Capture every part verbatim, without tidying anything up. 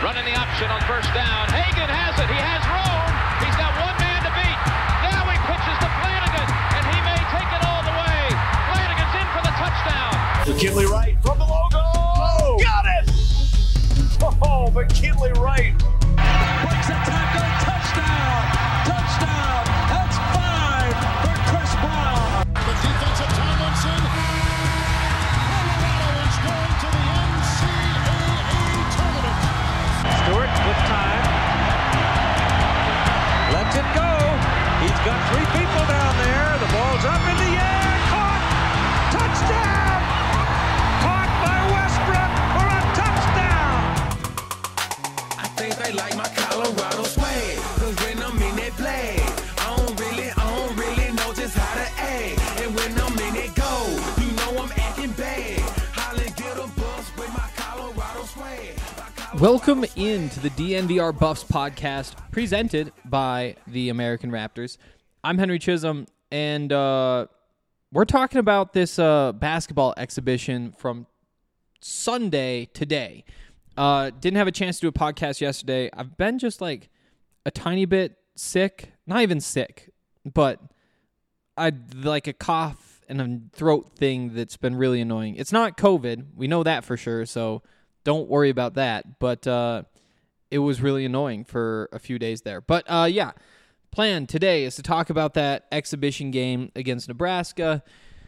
Running the option on first down. Hagan has it. He has room. He's got one man to beat. Now he pitches to Flanagan, and he may take it all the way. Flanagan's in for the touchdown. McKinley Wright from the logo. Oh, got it! Oh, McKinley Wright. Breaks a tackle. Touchdown. Touchdown. That's five for Chris Brown. The defensive Tomlinson. Colorado is going to the N C double A tournament. Stewart with time. Lets it go. He's got three people down there. The ball's up in the air. Caught. Touchdown. Caught by Westbrook for a touchdown. I think they like my Colorado swag. Cause when I'm in that play, I don't really, I don't really know just how to act. And when I'm in it go, you know I'm acting bad. Holly get a bus with my Colorado swag. Welcome into the D N V R Buffs podcast, presented by the American Raptors. I'm Henry Chisholm, and uh, we're talking about this uh, basketball exhibition from Sunday today. Uh, didn't have a chance to do a podcast yesterday. I've been just like a tiny bit sick, not even sick, but I like a cough and a throat thing that's been really annoying. It's not COVID. We know that for sure, so don't worry about that, but uh, it was really annoying for a few days there. But uh, yeah, plan today is to talk about that exhibition game against Nebraska.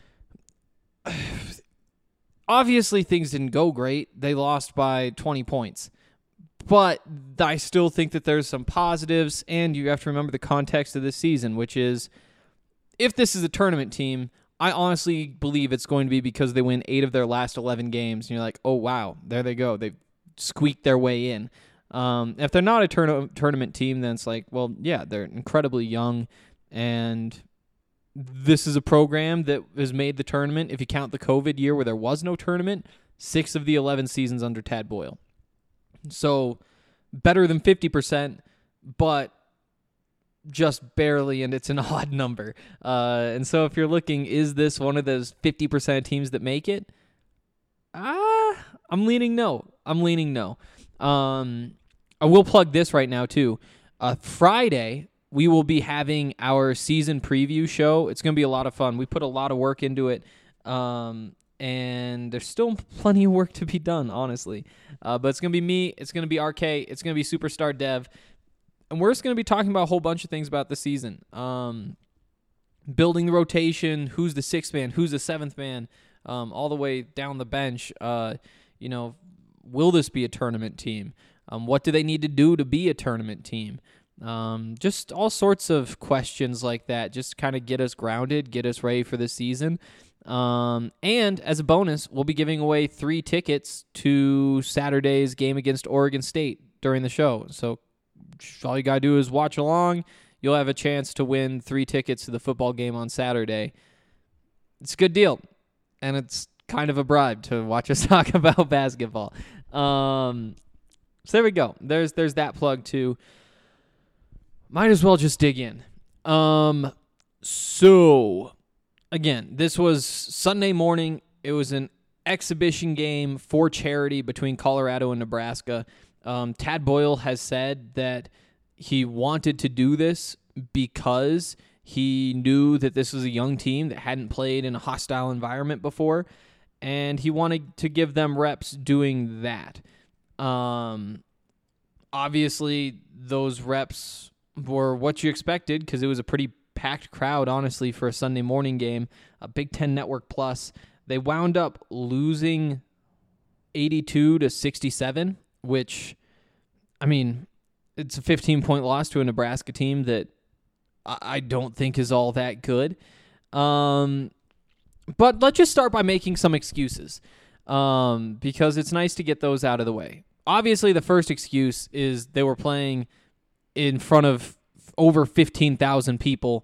Obviously, things didn't go great. They lost by twenty points. But I still think that there's some positives, and you have to remember the context of this season, which is if this is a tournament team, I honestly believe it's going to be because they win eight of their last eleven games, and you're like, oh, wow, there they go. They've squeaked their way in. Um, if they're not a tourna- tournament team, then it's like, well, yeah, they're incredibly young, and this is a program that has made the tournament, if you count the COVID year where there was no tournament, six of the eleven seasons under Tad Boyle. So better than fifty percent, but just barely, and it's an odd number. Uh, and so if you're looking, is this one of those fifty percent of teams that make it? Ah, uh, I'm leaning no. I'm leaning no. Um, I will plug this right now, too. Uh, Friday, we will be having our season preview show. It's going to be a lot of fun. We put a lot of work into it, um, and there's still plenty of work to be done, honestly. Uh, but it's going to be me. It's going to be R K. It's going to be Superstar Dev. And we're just going to be talking about a whole bunch of things about the season. Um, building the rotation, who's the sixth man, who's the seventh man, um, all the way down the bench. Uh, you know, will this be a tournament team? Um, what do they need to do to be a tournament team? Um, just all sorts of questions like that. Just kind of get us grounded, get us ready for the season. Um, and as a bonus, we'll be giving away three tickets to Saturday's game against Oregon State during the show. So all you got to do is watch along. You'll have a chance to win three tickets to the football game on Saturday. It's a good deal, and it's kind of a bribe to watch us talk about basketball. Um, so there we go. There's there's that plug, too. Might as well just dig in. Um, so, again, this was Sunday morning. It was an exhibition game for charity between Colorado and Nebraska. Um, Tad Boyle has said that he wanted to do this because he knew that this was a young team that hadn't played in a hostile environment before, and he wanted to give them reps doing that. Um, obviously, those reps were what you expected because it was a pretty packed crowd, honestly, for a Sunday morning game, a Big Ten Network Plus. They wound up losing eighty-two to sixty-seven, which, I mean, it's a fifteen-point loss to a Nebraska team that I don't think is all that good. Um, but let's just start by making some excuses, um, because it's nice to get those out of the way. Obviously, the first excuse is they were playing in front of over fifteen thousand people,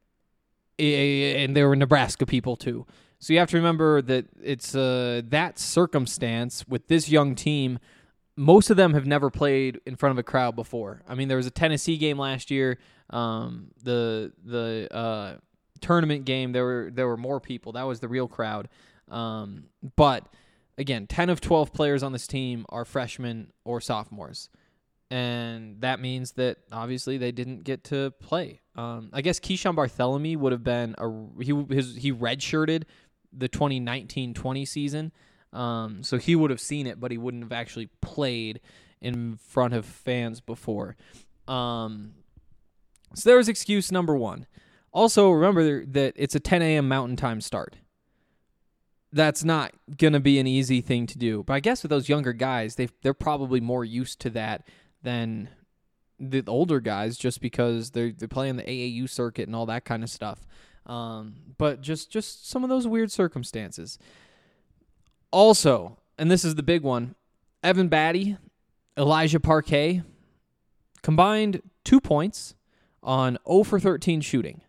and they were Nebraska people too. So you have to remember that it's uh, that circumstance with this young team. Most of them have never played in front of a crowd before. I mean, there was a Tennessee game last year. Um, the the uh, tournament game, there were there were more people. That was the real crowd. Um, but again, ten of twelve players on this team are freshmen or sophomores. And that means that obviously they didn't get to play. Um, I guess Keyshawn Bartholomew would have been a he his, he redshirted the twenty nineteen twenty season, um, so he would have seen it, but he wouldn't have actually played in front of fans before. Um, so there was excuse number one. Also, remember that it's a ten a.m. Mountain Time start. That's not going to be an easy thing to do. But I guess with those younger guys, they they're probably more used to that than the older guys, just because they're they're playing the A A U circuit and all that kind of stuff. Um, but just just some of those weird circumstances. Also, and this is the big one, Evan Batty, Elijah Parquet, combined two points on zero for thirteen shooting.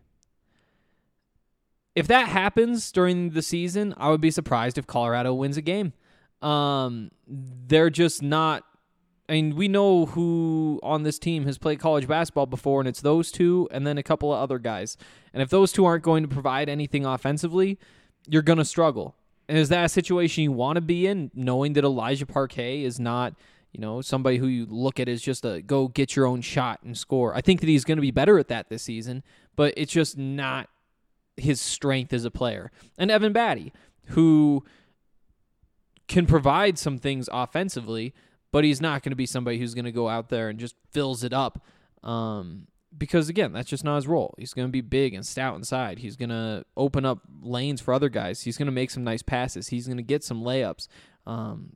If that happens during the season, I would be surprised if Colorado wins a game. Um, they're just not. I mean, we know who on this team has played college basketball before, and it's those two and then a couple of other guys. And if those two aren't going to provide anything offensively, you're going to struggle. And is that a situation you want to be in, knowing that Elijah Parquet is not, you know, somebody who you look at as just a go get your own shot and score? I think that he's going to be better at that this season, but it's just not his strength as a player. And Evan Batty, who can provide some things offensively, but he's not going to be somebody who's going to go out there and just fills it up. Um, because, again, that's just not his role. He's going to be big and stout inside. He's going to open up lanes for other guys. He's going to make some nice passes. He's going to get some layups. Um,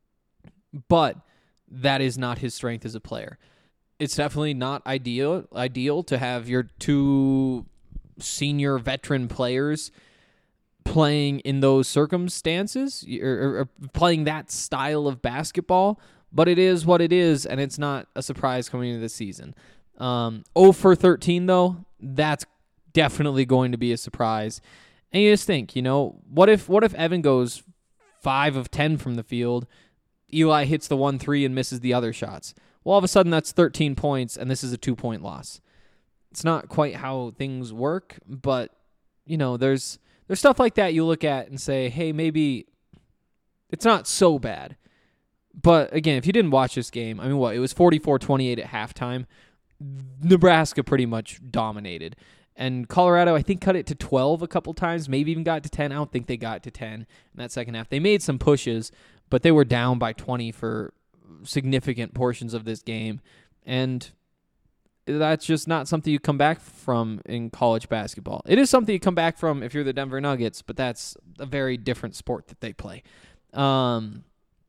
but that is not his strength as a player. It's definitely not ideal ideal to have your two senior veteran players playing in those circumstances or, or, or playing that style of basketball, but it is what it is, and it's not a surprise coming into the season. Um, zero for thirteen, though, that's definitely going to be a surprise. And you just think, you know, what if what if Evan goes five of ten from the field, Eli hits the one three and misses the other shots? Well, all of a sudden that's thirteen points, and this is a two-point loss. It's not quite how things work, but, you know, there's there's stuff like that you look at and say, hey, maybe it's not so bad. But, again, if you didn't watch this game, I mean, what? It was forty-four twenty-eight at halftime. Nebraska pretty much dominated. And Colorado, I think, cut it to twelve a couple times, maybe even got to ten. I don't think they got to ten in that second half. They made some pushes, but they were down by twenty for significant portions of this game. And that's just not something you come back from in college basketball. It is something you come back from if you're the Denver Nuggets, but that's a very different sport that they play. Um,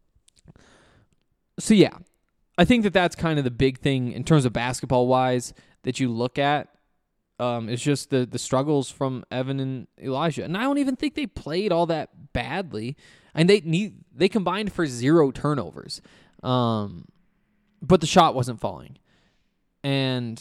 so, yeah, I think that that's kind of the big thing in terms of basketball-wise that you look at. Um, it's just the the struggles from Evan and Elijah. And I don't even think they played all that badly. And they need they combined for zero turnovers. Um, but the shot wasn't falling. And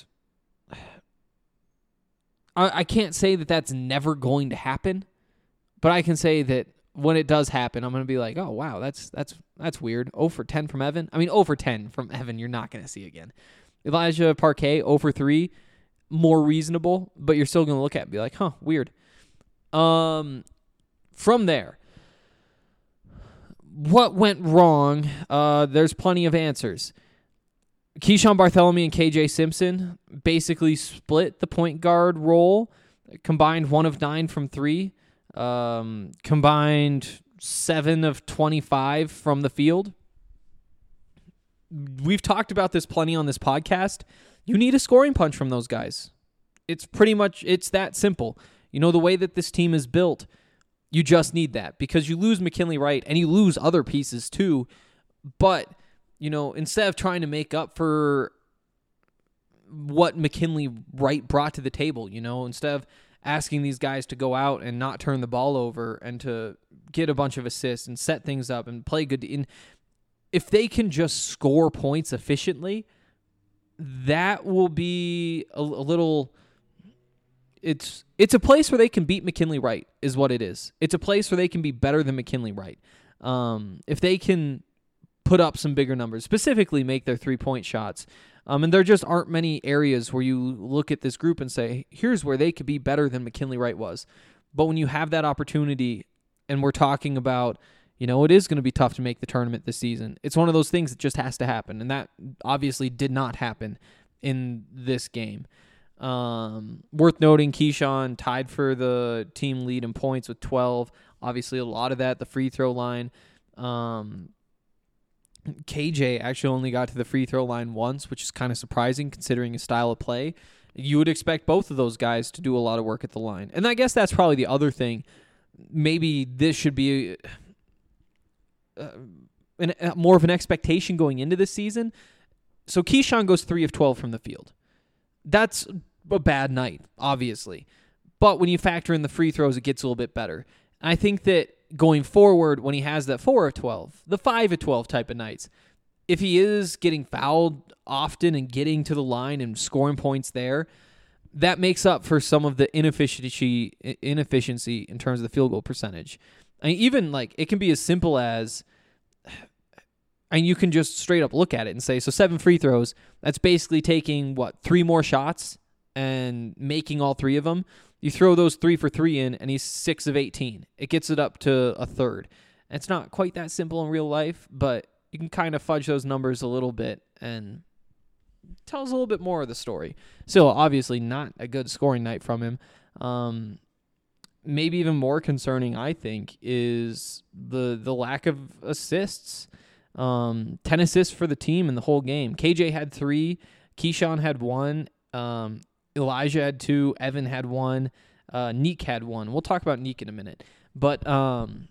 I, I can't say that that's never going to happen, but I can say that when it does happen, I'm going to be like, oh, wow, that's that's that's weird. zero for ten from Evan. I mean, zero for ten from Evan, you're not going to see again. Elijah Parquet, zero for three, more reasonable, but you're still going to look at it and be like, huh, weird. Um, from there, what went wrong? Uh, there's plenty of answers. Keyshawn Bartholomew and K J Simpson basically split the point guard role, combined one of nine from three, um, combined seven of twenty-five from the field. We've talked about this plenty on this podcast. You need a scoring punch from those guys. It's pretty much, it's that simple. You know, the way that this team is built, you just need that because you lose McKinley Wright and you lose other pieces too, but you know, instead of trying to make up for what McKinley Wright brought to the table, you know, instead of asking these guys to go out and not turn the ball over and to get a bunch of assists and set things up and play good. In, if they can just score points efficiently, that will be a, a little... It's it's a place where they can beat McKinley Wright is what it is. It's a place where they can be better than McKinley Wright. Um, if they can put up some bigger numbers, specifically make their three-point shots. Um, and there just aren't many areas where you look at this group and say, here's where they could be better than McKinley Wright was. But when you have that opportunity, and we're talking about, You know, it is going to be tough to make the tournament this season. It's one of those things that just has to happen, and that obviously did not happen in this game. Um, worth noting, Keyshawn tied for the team lead in points with twelve. Obviously, a lot of that, the free throw line. Um, K J actually only got to the free throw line once, which is kind of surprising considering his style of play. You would expect both of those guys to do a lot of work at the line. And I guess that's probably the other thing. Maybe this should be uh, an, uh, more of an expectation going into this season. So Keyshawn goes three of twelve from the field. That's a bad night, obviously. But when you factor in the free throws, it gets a little bit better. And I think that going forward, when he has that four of twelve, the five of twelve type of nights, if he is getting fouled often and getting to the line and scoring points there, that makes up for some of the inefficiency inefficiency in terms of the field goal percentage. I mean, even like it can be as simple as, and you can just straight up look at it and say, so seven free throws, that's basically taking, what, three more shots and making all three of them. You throw those three for three in, and he's six of eighteen. It gets it up to a third. And it's not quite that simple in real life, but you can kind of fudge those numbers a little bit and tell us a little bit more of the story. Still, obviously not a good scoring night from him. Um, maybe even more concerning, I think, is the the lack of assists. Um, ten assists for the team in the whole game. K J had three. Keyshawn had one. Um, Elijah had two. Evan had one. Uh, Neek had one. We'll talk about Neek in a minute. But um,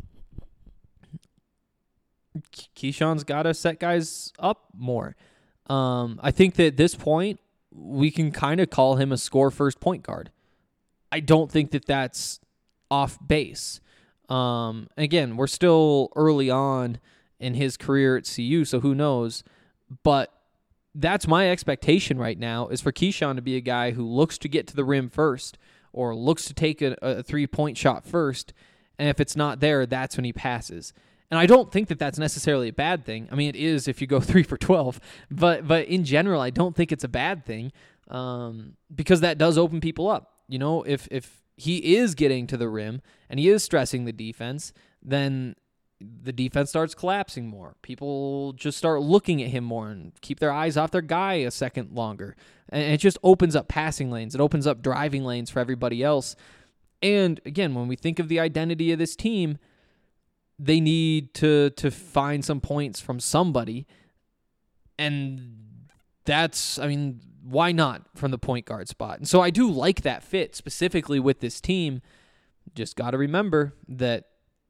Keyshawn's got to set guys up more. Um, I think that at this point, we can kind of call him a score-first point guard. I don't think that that's off base. Um, again, we're still early on in his career at C U, so who knows? But that's my expectation right now, is for Keyshawn to be a guy who looks to get to the rim first or looks to take a, a three-point shot first, and if it's not there, that's when he passes. And I don't think that that's necessarily a bad thing. I mean, it is if you go three for twelve, but but in general, I don't think it's a bad thing um, because that does open people up. You know, if if he is getting to the rim and he is stressing the defense, then the defense starts collapsing more. People just start looking at him more and keep their eyes off their guy a second longer. And it just opens up passing lanes. It opens up driving lanes for everybody else. And again, when we think of the identity of this team, they need to to find some points from somebody. And that's, I mean, why not from the point guard spot? And so I do like that fit specifically with this team. Just got to remember that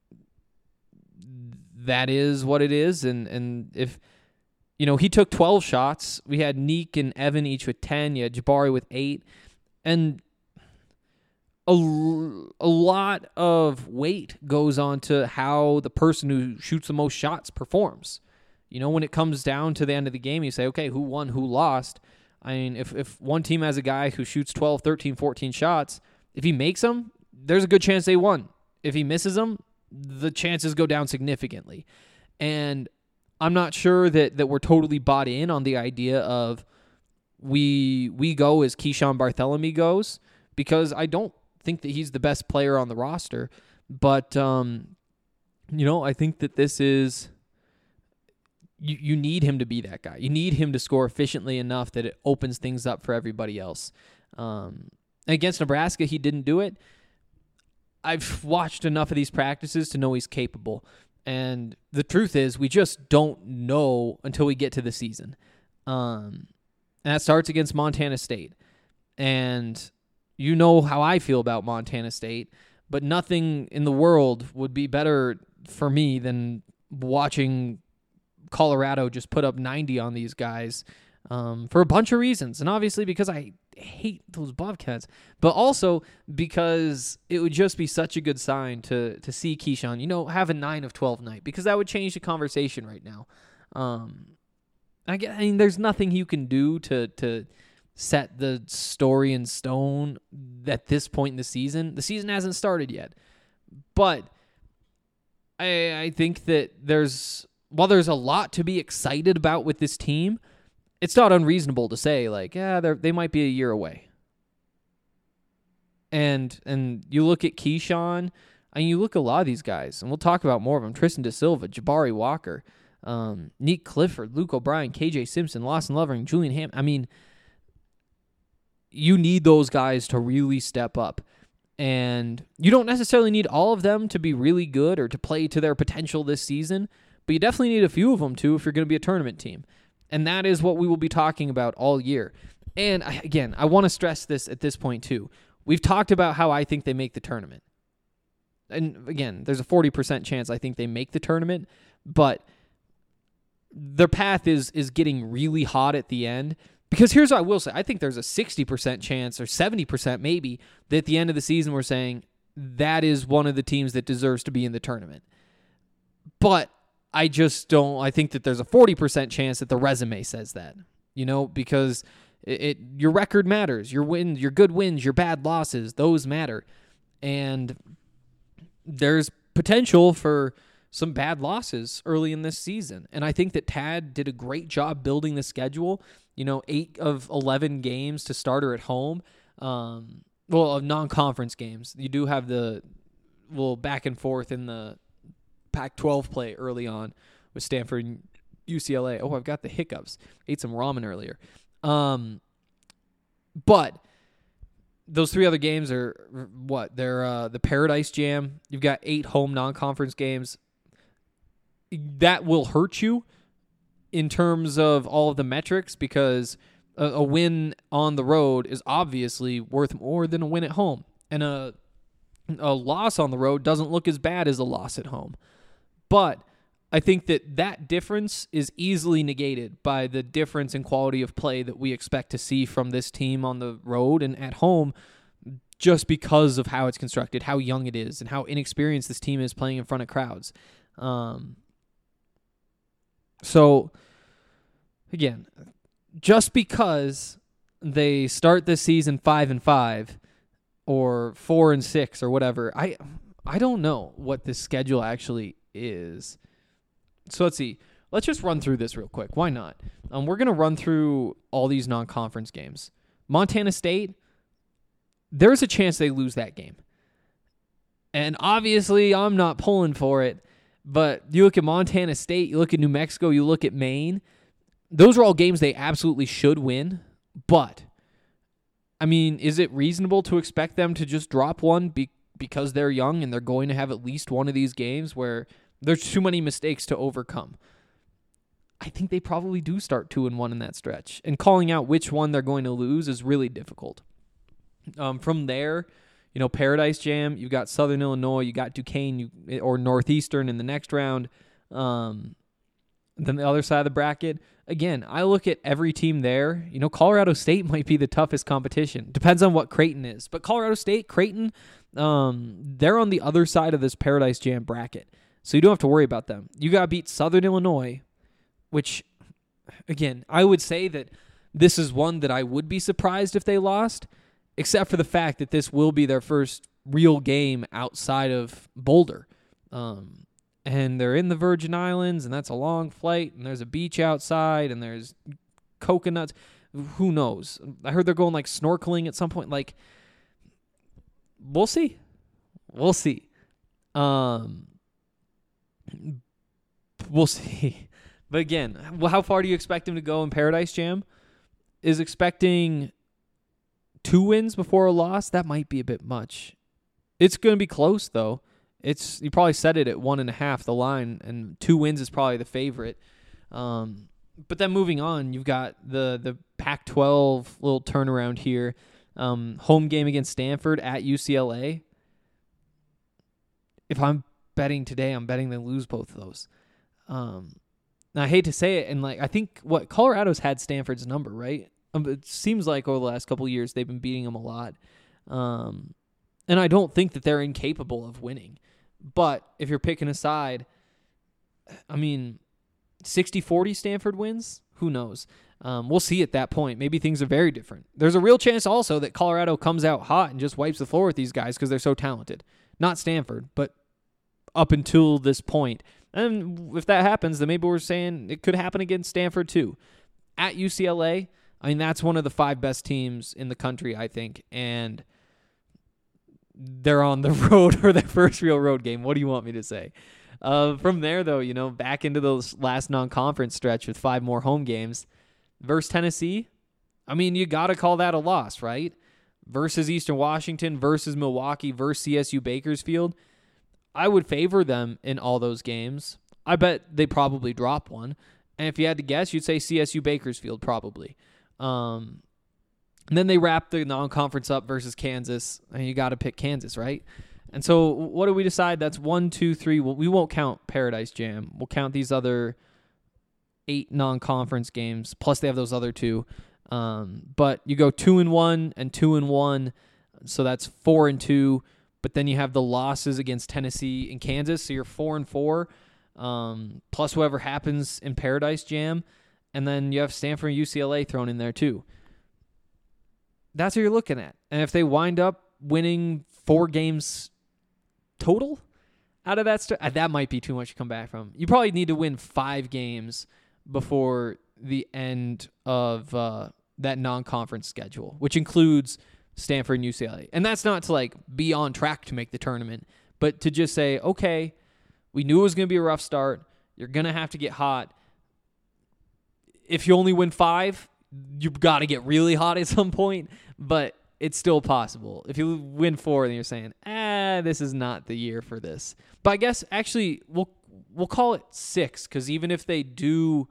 that is what it is. And, and if, you know, he took twelve shots. We had Neek and Evan each with ten. You had Jabari with eight. And a, a lot of weight goes on to how the person who shoots the most shots performs. You know, when it comes down to the end of the game, you say, okay, who won, who lost? I mean, if, if one team has a guy who shoots twelve, thirteen, fourteen shots, if he makes them, there's a good chance they won. If he misses them, the chances go down significantly. And I'm not sure that, that we're totally bought in on the idea of we we go as Keyshawn Bartholomew goes, because I don't think that he's the best player on the roster. But, um, you know, I think that this is, you, you need him to be that guy. You need him to score efficiently enough that it opens things up for everybody else. Um, against Nebraska, he didn't do it. I've watched enough of these practices to know he's capable. And the truth is, we just don't know until we get to the season. Um, and that starts against Montana State. And you know how I feel about Montana State, but nothing in the world would be better for me than watching Colorado just put up ninety on these guys um, for a bunch of reasons. And obviously because I hate those Bobcats, but also because it would just be such a good sign to to see Keyshawn, you know, have a nine of twelve night, because that would change the conversation right now. Um, I, get, I mean, there's nothing you can do to to set the story in stone at this point in the season. The season hasn't started yet, but I I think that there's, while there's a lot to be excited about with this team, it's not unreasonable to say, like, yeah, they they might be a year away. And and you look at Keyshawn, I mean, you look at a lot of these guys, and we'll talk about more of them. Tristan Da Silva, Jabari Walker, um, Nick Clifford, Luke O'Brien, K J Simpson, Lawson Lovering, Julian Ham. I mean, you need those guys to really step up. And you don't necessarily need all of them to be really good or to play to their potential this season, but you definitely need a few of them too if you're going to be a tournament team. And that is what we will be talking about all year. And I, again, I want to stress this at this point too. We've talked about how I think they make the tournament. And again, there's a forty percent chance I think they make the tournament, but their path is is getting really hot at the end. Because here's what I will say. I think there's a sixty percent chance or seventy percent maybe that at the end of the season we're saying that is one of the teams that deserves to be in the tournament. But I just don't. I think that there's a forty percent chance that the resume says that, you know, because it, it your record matters. Your wins, your good wins, your bad losses, those matter. And there's potential for some bad losses early in this season. And I think that Tad did a great job building the schedule. You know, eight of eleven games to start her at home. Um, well, of non-conference games. You do have the little back and forth in the Pac twelve play early on with Stanford and U C L A. Oh, I've got the hiccups. Ate some ramen earlier. Um, but those three other games are what? They're uh, the Paradise Jam. You've got eight home non-conference games. That will hurt you in terms of all of the metrics because a, a win on the road is obviously worth more than a win at home. And a, a loss on the road doesn't look as bad as a loss at home. But I think that that difference is easily negated by the difference in quality of play that we expect to see from this team on the road and at home just because of how it's constructed, how young it is, and how inexperienced this team is playing in front of crowds. Um, so, again, just because they start this season five and five or four and six or whatever, I I don't know what this schedule actually is. So let's see. Let's just run through this real quick. Why not? Um, we're going to run through all these non-conference games. Montana State, there's a chance they lose that game. And obviously, I'm not pulling for it. But you look at Montana State, you look at New Mexico, you look at Maine. Those are all games they absolutely should win. But, I mean, is it reasonable to expect them to just drop one be- because they're young and they're going to have at least one of these games where there's too many mistakes to overcome? I think they probably do start two and one in that stretch. And calling out which one they're going to lose is really difficult. Um, from there, you know, Paradise Jam, you've got Southern Illinois, you got Duquesne you, or Northeastern in the next round. Um, then the other side of the bracket, again, I look at every team there. You know, Colorado State might be the toughest competition. Depends on what Creighton is. But Colorado State, Creighton, um, they're on the other side of this Paradise Jam bracket. So you don't have to worry about them. You got to beat Southern Illinois, which, again, I would say that this is one that I would be surprised if they lost, except for the fact that this will be their first real game outside of Boulder. Um, and they're in the Virgin Islands, and that's a long flight, and there's a beach outside, and there's coconuts. Who knows? I heard they're going, like, snorkeling at some point. Like, we'll see. We'll see. Um... We'll see. But again, how far do you expect him to go in Paradise Jam? Is expecting two wins before a loss? That might be a bit much. It's going to be close, though. It's you probably set it at one and a half, the line, and two wins is probably the favorite. Um, but then moving on, you've got the, the Pac twelve little turnaround here. Um, home game against Stanford at U C L A. If I'm betting today, I'm betting they lose both of those. Um, now I hate to say it, and like I think what Colorado's had Stanford's number, right? Um, it seems like over the last couple of years they've been beating them a lot, um, and I don't think that they're incapable of winning. But if you're picking a side, I mean, sixty forty Stanford wins. Who knows? Um, we'll see at that point. Maybe things are very different. There's a real chance also that Colorado comes out hot and just wipes the floor with these guys because they're so talented. Not Stanford, but up until this point. And if that happens, then maybe we're saying it could happen against Stanford too. At U C L A, I mean, that's one of the five best teams in the country, I think. And they're on the road for their first real road game. What do you want me to say? Uh, from there, though, you know, back into those last non-conference stretch with five more home games versus Tennessee. I mean, you got to call that a loss, right? Versus Eastern Washington, versus Milwaukee, versus C S U Bakersfield. I would favor them in all those games. I bet they probably drop one. And if you had to guess, you'd say C S U Bakersfield probably. Um, and then they wrap the non-conference up versus Kansas, and you got to pick Kansas, right? And so what do we decide? That's one, two, three. Well, we won't count Paradise Jam. We'll count these other eight non-conference games, plus they have those other two. Um, but you go two and one and two and one, so that's four and two. But then you have the losses against Tennessee and Kansas, so you're four and four, um, plus whoever happens in Paradise Jam, and then you have Stanford and U C L A thrown in there too. That's what you're looking at. And if they wind up winning four games total out of that, st- that might be too much to come back from. You probably need to win five games before the end of uh, that non-conference schedule, which includes Stanford and U C L A. And that's not to like be on track to make the tournament, but to just say, okay, we knew it was going to be a rough start. You're going to have to get hot. If you only win five, you've got to get really hot at some point, but it's still possible. If you win four, then you're saying, ah, this is not the year for this. But I guess actually we'll we'll call it six, because even if they do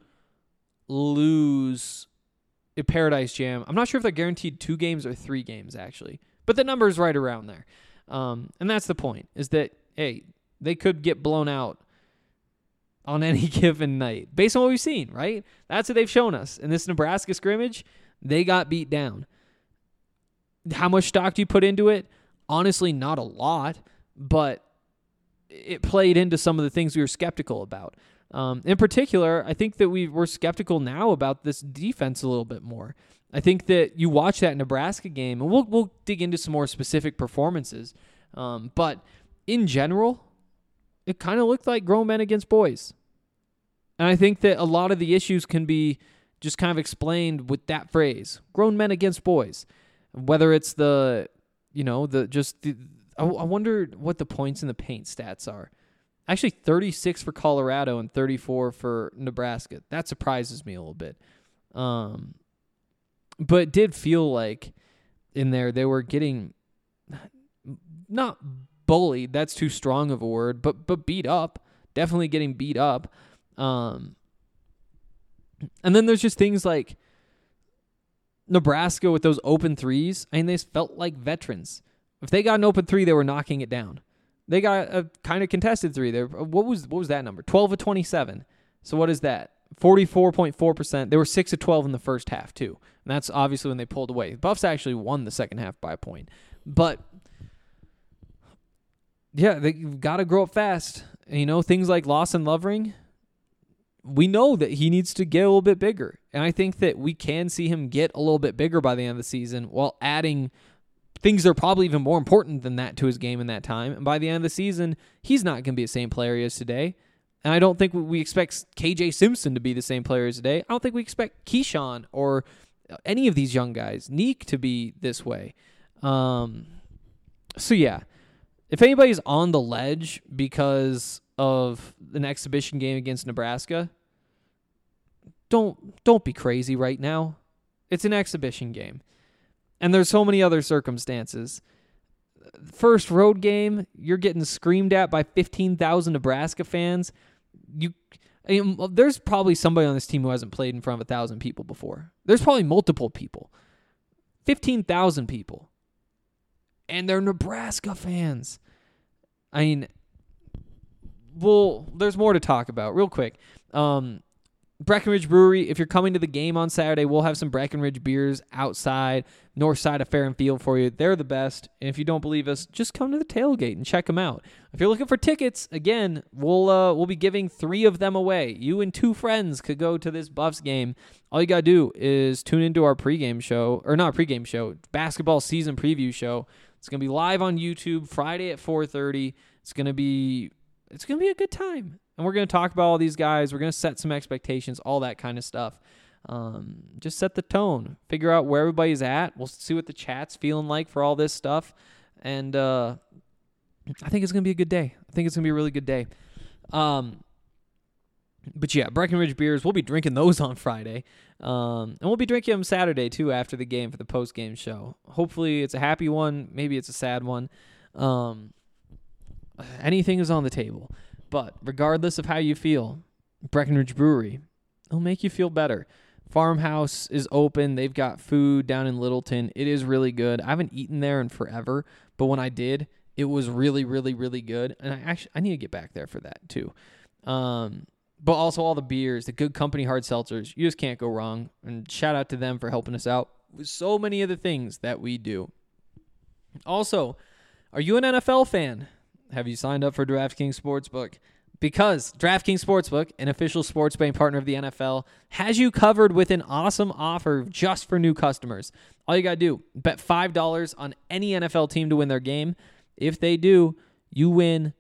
lose a Paradise Jam, I'm not sure if they're guaranteed two games or three games actually, but the number is right around there. Um, and that's the point, is that, hey, they could get blown out on any given night based on what we've seen, right? That's what they've shown us. In this Nebraska scrimmage, they got beat down. How much stock do you put into it? Honestly, not a lot, but it played into some of the things we were skeptical about. Um, in particular, I think that we we're skeptical now about this defense a little bit more. I think that you watch that Nebraska game, and we'll we'll dig into some more specific performances. Um, but in general, it kind of looked like grown men against boys. And I think that a lot of the issues can be just kind of explained with that phrase, grown men against boys. Whether it's the, you know, the just the, I, I wonder what the points in the paint stats are. Actually, thirty-six for Colorado and thirty-four for Nebraska. That surprises me a little bit. Um, but it did feel like in there they were getting not bullied. That's too strong of a word, but but beat up. Definitely getting beat up. Um, and then there's just things like Nebraska with those open threes. I mean, they felt like veterans. If they got an open three, they were knocking it down. They got a kind of contested three there. What was what was that number? twelve of twenty-seven. So what is that? forty-four point four percent. They were six of twelve in the first half, too. And that's obviously when they pulled away. Buffs actually won the second half by a point. But, yeah, they've got to grow up fast. And, you know, things like Lawson Lovering, we know that he needs to get a little bit bigger. And I think that we can see him get a little bit bigger by the end of the season while adding things that are probably even more important than that to his game in that time. And by the end of the season, he's not going to be the same player he is today. And I don't think we expect K J Simpson to be the same player as today. I don't think we expect Keyshawn or any of these young guys, Neek, to be this way. Um, so, yeah, if anybody's on the ledge because of an exhibition game against Nebraska, don't don't be crazy right now. It's an exhibition game. And there's so many other circumstances. First road game, you're getting screamed at by fifteen thousand Nebraska fans. You, I mean, there's probably somebody on this team who hasn't played in front of one thousand people before. There's probably multiple people. fifteen thousand people. And they're Nebraska fans. I mean, well, there's more to talk about. Real quick. Um, Breckenridge Brewery, if you're coming to the game on Saturday, we'll have some Breckenridge beers outside, north side of Fair and Field for you. They're the best. And if you don't believe us, just come to the tailgate and check them out. If you're looking for tickets, again, we'll uh, we'll be giving three of them away. You and two friends could go to this Buffs game. All you got to do is tune into our pregame show, or not pregame show, basketball season preview show. It's going to be live on YouTube Friday at four thirty. It's going to be it's going to be a good time. And we're going to talk about all these guys. We're going to set some expectations, all that kind of stuff. Um, just set the tone. Figure out where everybody's at. We'll see what the chat's feeling like for all this stuff. And uh, I think it's going to be a good day. I think it's going to be a really good day. Um, but yeah, Breckenridge beers, we'll be drinking those on Friday. Um, and we'll be drinking them Saturday, too, after the game for the post-game show. Hopefully it's a happy one. Maybe it's a sad one. Um, anything is on the table. But regardless of how you feel, Breckenridge Brewery, it'll make you feel better. Farmhouse is open. They've got food down in Littleton. It is really good. I haven't eaten there in forever, but when I did, it was really, really, really good. And I actually I need to get back there for that too. Um, but also all the beers, the Good Company hard seltzers. You just can't go wrong. And shout out to them for helping us out with so many of the things that we do. Also, are you an N F L fan? Have you signed up for DraftKings Sportsbook? Because DraftKings Sportsbook, an official sports betting partner of the N F L, has you covered with an awesome offer just for new customers. All you got to do, bet five dollars on any N F L team to win their game. If they do, you win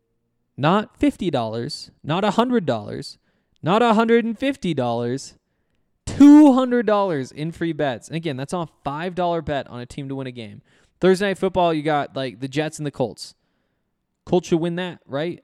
not fifty dollars, not one hundred dollars, not one hundred fifty dollars, two hundred dollars in free bets. And again, that's on a five dollar bet on a team to win a game. Thursday Night Football, you got like the Jets and the Colts. Colts should win that, right?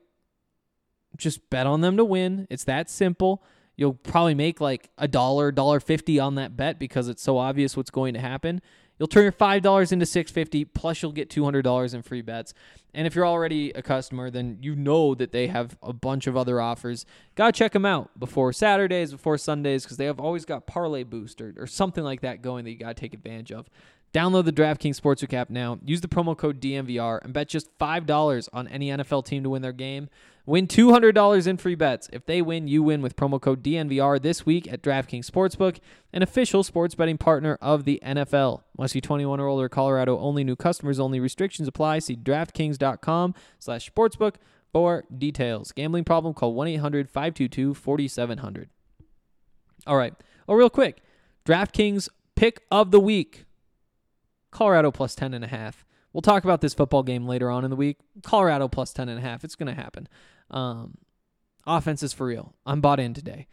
Just bet on them to win. It's that simple. You'll probably make like a dollar, one dollar fifty on that bet because it's so obvious what's going to happen. You'll turn your five dollars into six fifty, plus you'll get two hundred dollars in free bets. And if you're already a customer, then you know that they have a bunch of other offers. Gotta check them out before Saturdays, before Sundays, because they have always got Parlay Boost or, or something like that going that you gotta take advantage of. Download the DraftKings Sportsbook app now. Use the promo code D M V R and bet just five dollars on any N F L team to win their game. Win two hundred dollars in free bets. If they win, you win with promo code D N V R this week at DraftKings Sportsbook, an official sports betting partner of the N F L. Must be twenty-one or older, Colorado only, new customers only, restrictions apply. See DraftKings.com slash sportsbook for details. Gambling problem, call one eight hundred five two two four seven zero zero. All right. Oh, real quick. DraftKings pick of the week. Colorado plus ten and a half. We'll talk about this football game later on in the week. Colorado plus ten and a half. It's going to happen. Um, offense is for real. I'm bought in today.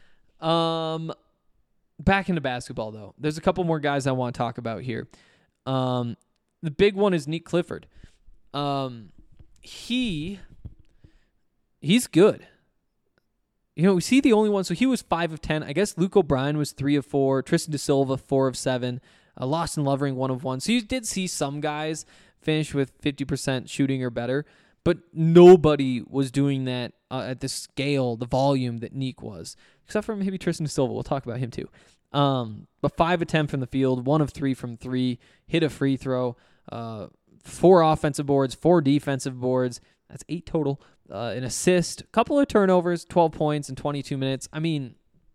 Um, back into basketball, though. There's a couple more guys I want to talk about here. Um, the big one is Nick Clifford. Um, he, he's good. You know, we see the only one. So he was five of ten. I guess Luke O'Brien was three of four. Tristan DeSilva, four of seven. Uh, Lawson Lovering, one of one. So you did see some guys finish with fifty percent shooting or better, but nobody was doing that uh, at the scale, the volume that Neek was, except for maybe Tristan Silva. We'll talk about him too. Um, but five of ten from the field, one of three from three, hit a free throw, uh, four offensive boards, four defensive boards. That's eight total. Uh, an assist, a couple of turnovers, twelve points in twenty-two minutes. I mean,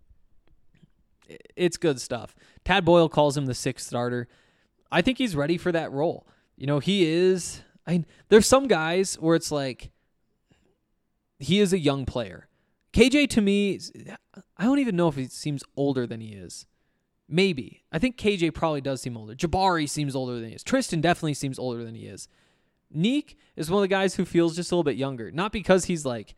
it's good stuff. Tad Boyle calls him the sixth starter. I think he's ready for that role. You know, he is. I mean, there's some guys where it's like he is a young player. K J to me, I don't even know if he seems older than he is. Maybe. I think K J probably does seem older. Jabari seems older than he is. Tristan definitely seems older than he is. Neek is one of the guys who feels just a little bit younger. Not because he's like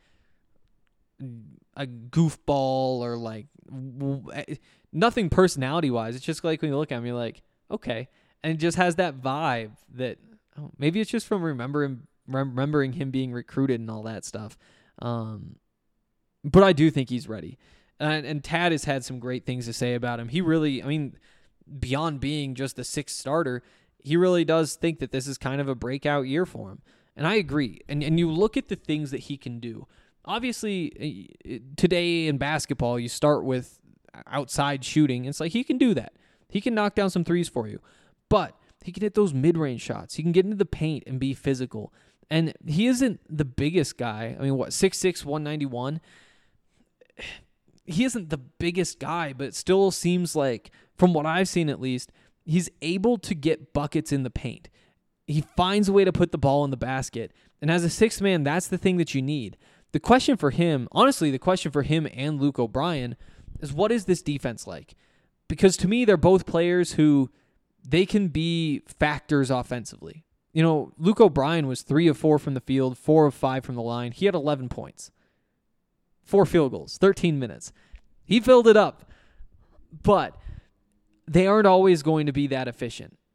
a goofball or like nothing personality-wise. It's just like when you look at him, you're like, okay. And it just has that vibe that oh, maybe it's just from remembering remembering him being recruited and all that stuff. Um, but I do think he's ready. And, and Tad has had some great things to say about him. He really, I mean, beyond being just the sixth starter, he really does think that this is kind of a breakout year for him. And I agree. And and you look at the things that he can do. Obviously, today in basketball, you start with outside shooting. It's like he can do that. He can knock down some threes for you. But he can hit those mid-range shots. He can get into the paint and be physical. And he isn't the biggest guy. I mean, what, six six, one ninety-one? He isn't the biggest guy, but it still seems like, from what I've seen at least, he's able to get buckets in the paint. He finds a way to put the ball in the basket. And as a sixth man, that's the thing that you need. The question for him, honestly, the question for him and Luke O'Brien is, what is this defense like? Because to me, they're both players who they can be factors offensively. You know, Luke O'Brien was three of four from the field, four of five from the line. He had eleven points, four field goals, thirteen minutes. He filled it up. But they aren't always going to be that efficient.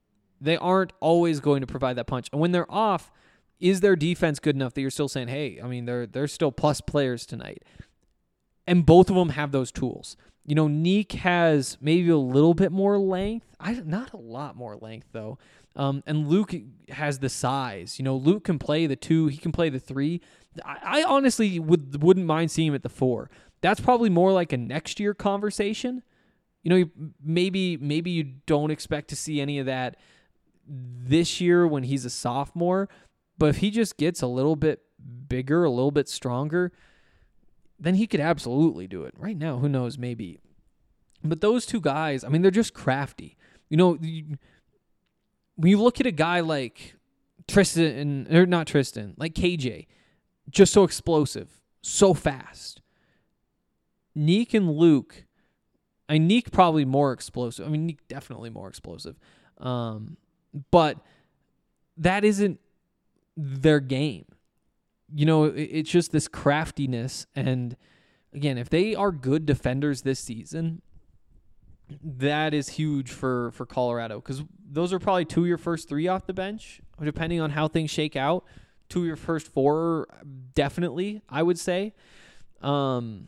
They aren't always going to provide that punch. And when they're off, is their defense good enough that you're still saying, hey, I mean, they're they're still plus players tonight? And both of them have those tools. You know, Neek has maybe a little bit more length. I not a lot more length, though. Um, and Luke has the size. You know, Luke can play the two. He can play the three. I, I honestly would, wouldn't mind seeing him at the four. That's probably more like a next year conversation. You know, maybe maybe you don't expect to see any of that this year when he's a sophomore. But if he just gets a little bit bigger, a little bit stronger, then he could absolutely do it. Right now, who knows, maybe. But those two guys, I mean, they're just crafty. You know, you, when you look at a guy like Tristan, or not Tristan, like K J, just so explosive, so fast. Neek and Luke, I mean, Neek probably more explosive. I mean, Neek definitely more explosive. Um, but that isn't their game. You know, it, it's just this craftiness. And again, if they are good defenders this season, that is huge for, for Colorado, because those are probably two of your first three off the bench, depending on how things shake out. Two of your first four, definitely, I would say. Um,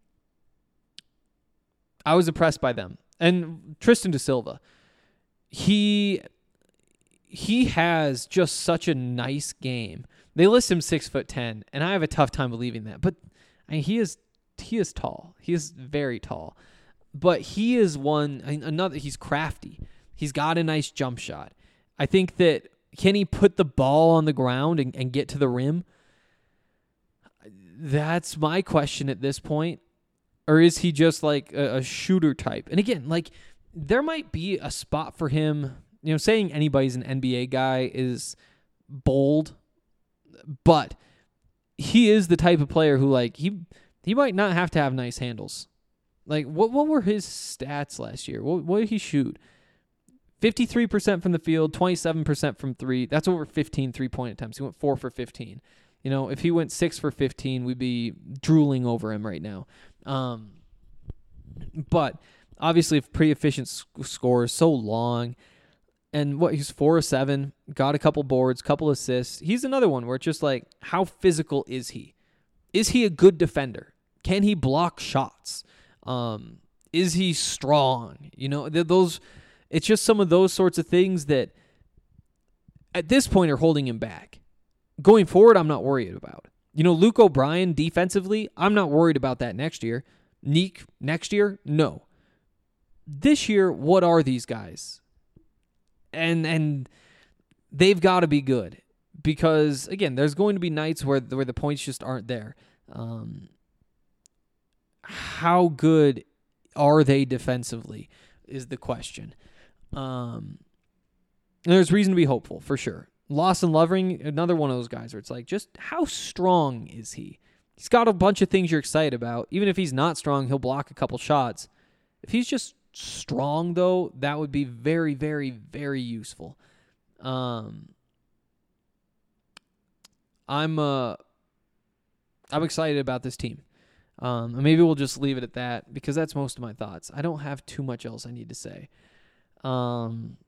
I was impressed by them. And Tristan da Silva, he he has just such a nice game. They list him six foot ten, and I have a tough time believing that. But I mean, he is he is tall. He is very tall. But he is one I mean, another. He's crafty. He's got a nice jump shot. I think that can he put the ball on the ground and, and get to the rim? That's my question at this point. Or is he just like a, a shooter type? And again, like there might be a spot for him. You know, saying anybody's an N B A guy is bold, but he is the type of player who like he he might not have to have nice handles. Like what what were his stats last year? What what did he shoot? fifty-three percent from the field, twenty-seven percent from three. That's over fifteen three-point attempts. He went four for fifteen. You know, if he went six for fifteen, we'd be drooling over him right now. Um, but obviously, pretty efficient sc- scores, so long. And what he's four of seven, got a couple boards, couple assists. He's another one where it's just like, how physical is he? Is he a good defender? Can he block shots? Um, is he strong? You know, those. It's just some of those sorts of things that at this point are holding him back. Going forward, I'm not worried about. You know, Luke O'Brien defensively, I'm not worried about that next year. Neek next year, no. This year, what are these guys? And and they've got to be good because, again, there's going to be nights where, where the points just aren't there. Um, how good are they defensively is the question. Um, there's reason to be hopeful, for sure. Lawson Lovering, another one of those guys where it's like, just how strong is he? He's got a bunch of things you're excited about. Even if he's not strong, he'll block a couple shots. If he's just strong, though, that would be very, very, very useful. Um, I'm uh, I'm excited about this team. Um, and maybe we'll just leave it at that because that's most of my thoughts. I don't have too much else I need to say. Um,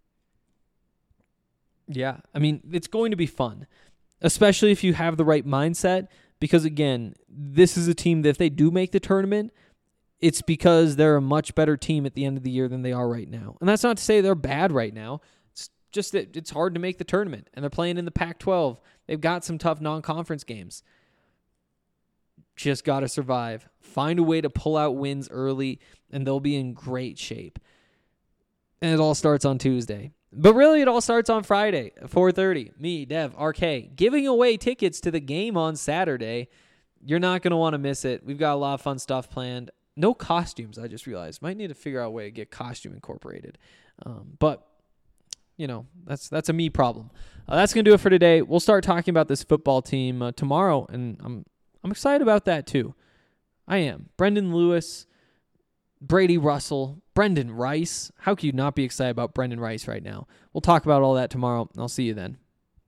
yeah, I mean, it's going to be fun, especially if you have the right mindset because, again, this is a team that if they do make the tournament, it's because they're a much better team at the end of the year than they are right now. And that's not to say they're bad right now. It's just that it's hard to make the tournament, and they're playing in the Pac twelve. They've got some tough non-conference games. Just got to survive. Find a way to pull out wins early, and they'll be in great shape. And it all starts on Tuesday. But really, it all starts on Friday at four thirty. Me, Dev, R K, giving away tickets to the game on Saturday. You're not going to want to miss it. We've got a lot of fun stuff planned. No costumes, I just realized. Might need to figure out a way to get costume incorporated. Um, but, you know, that's that's a me problem. Uh, that's going to do it for today. We'll start talking about this football team uh, tomorrow, and I'm I'm excited about that too. I am. Brendan Lewis, Brady Russell, Brendan Rice. How can you not be excited about Brendan Rice right now? We'll talk about all that tomorrow, and I'll see you then.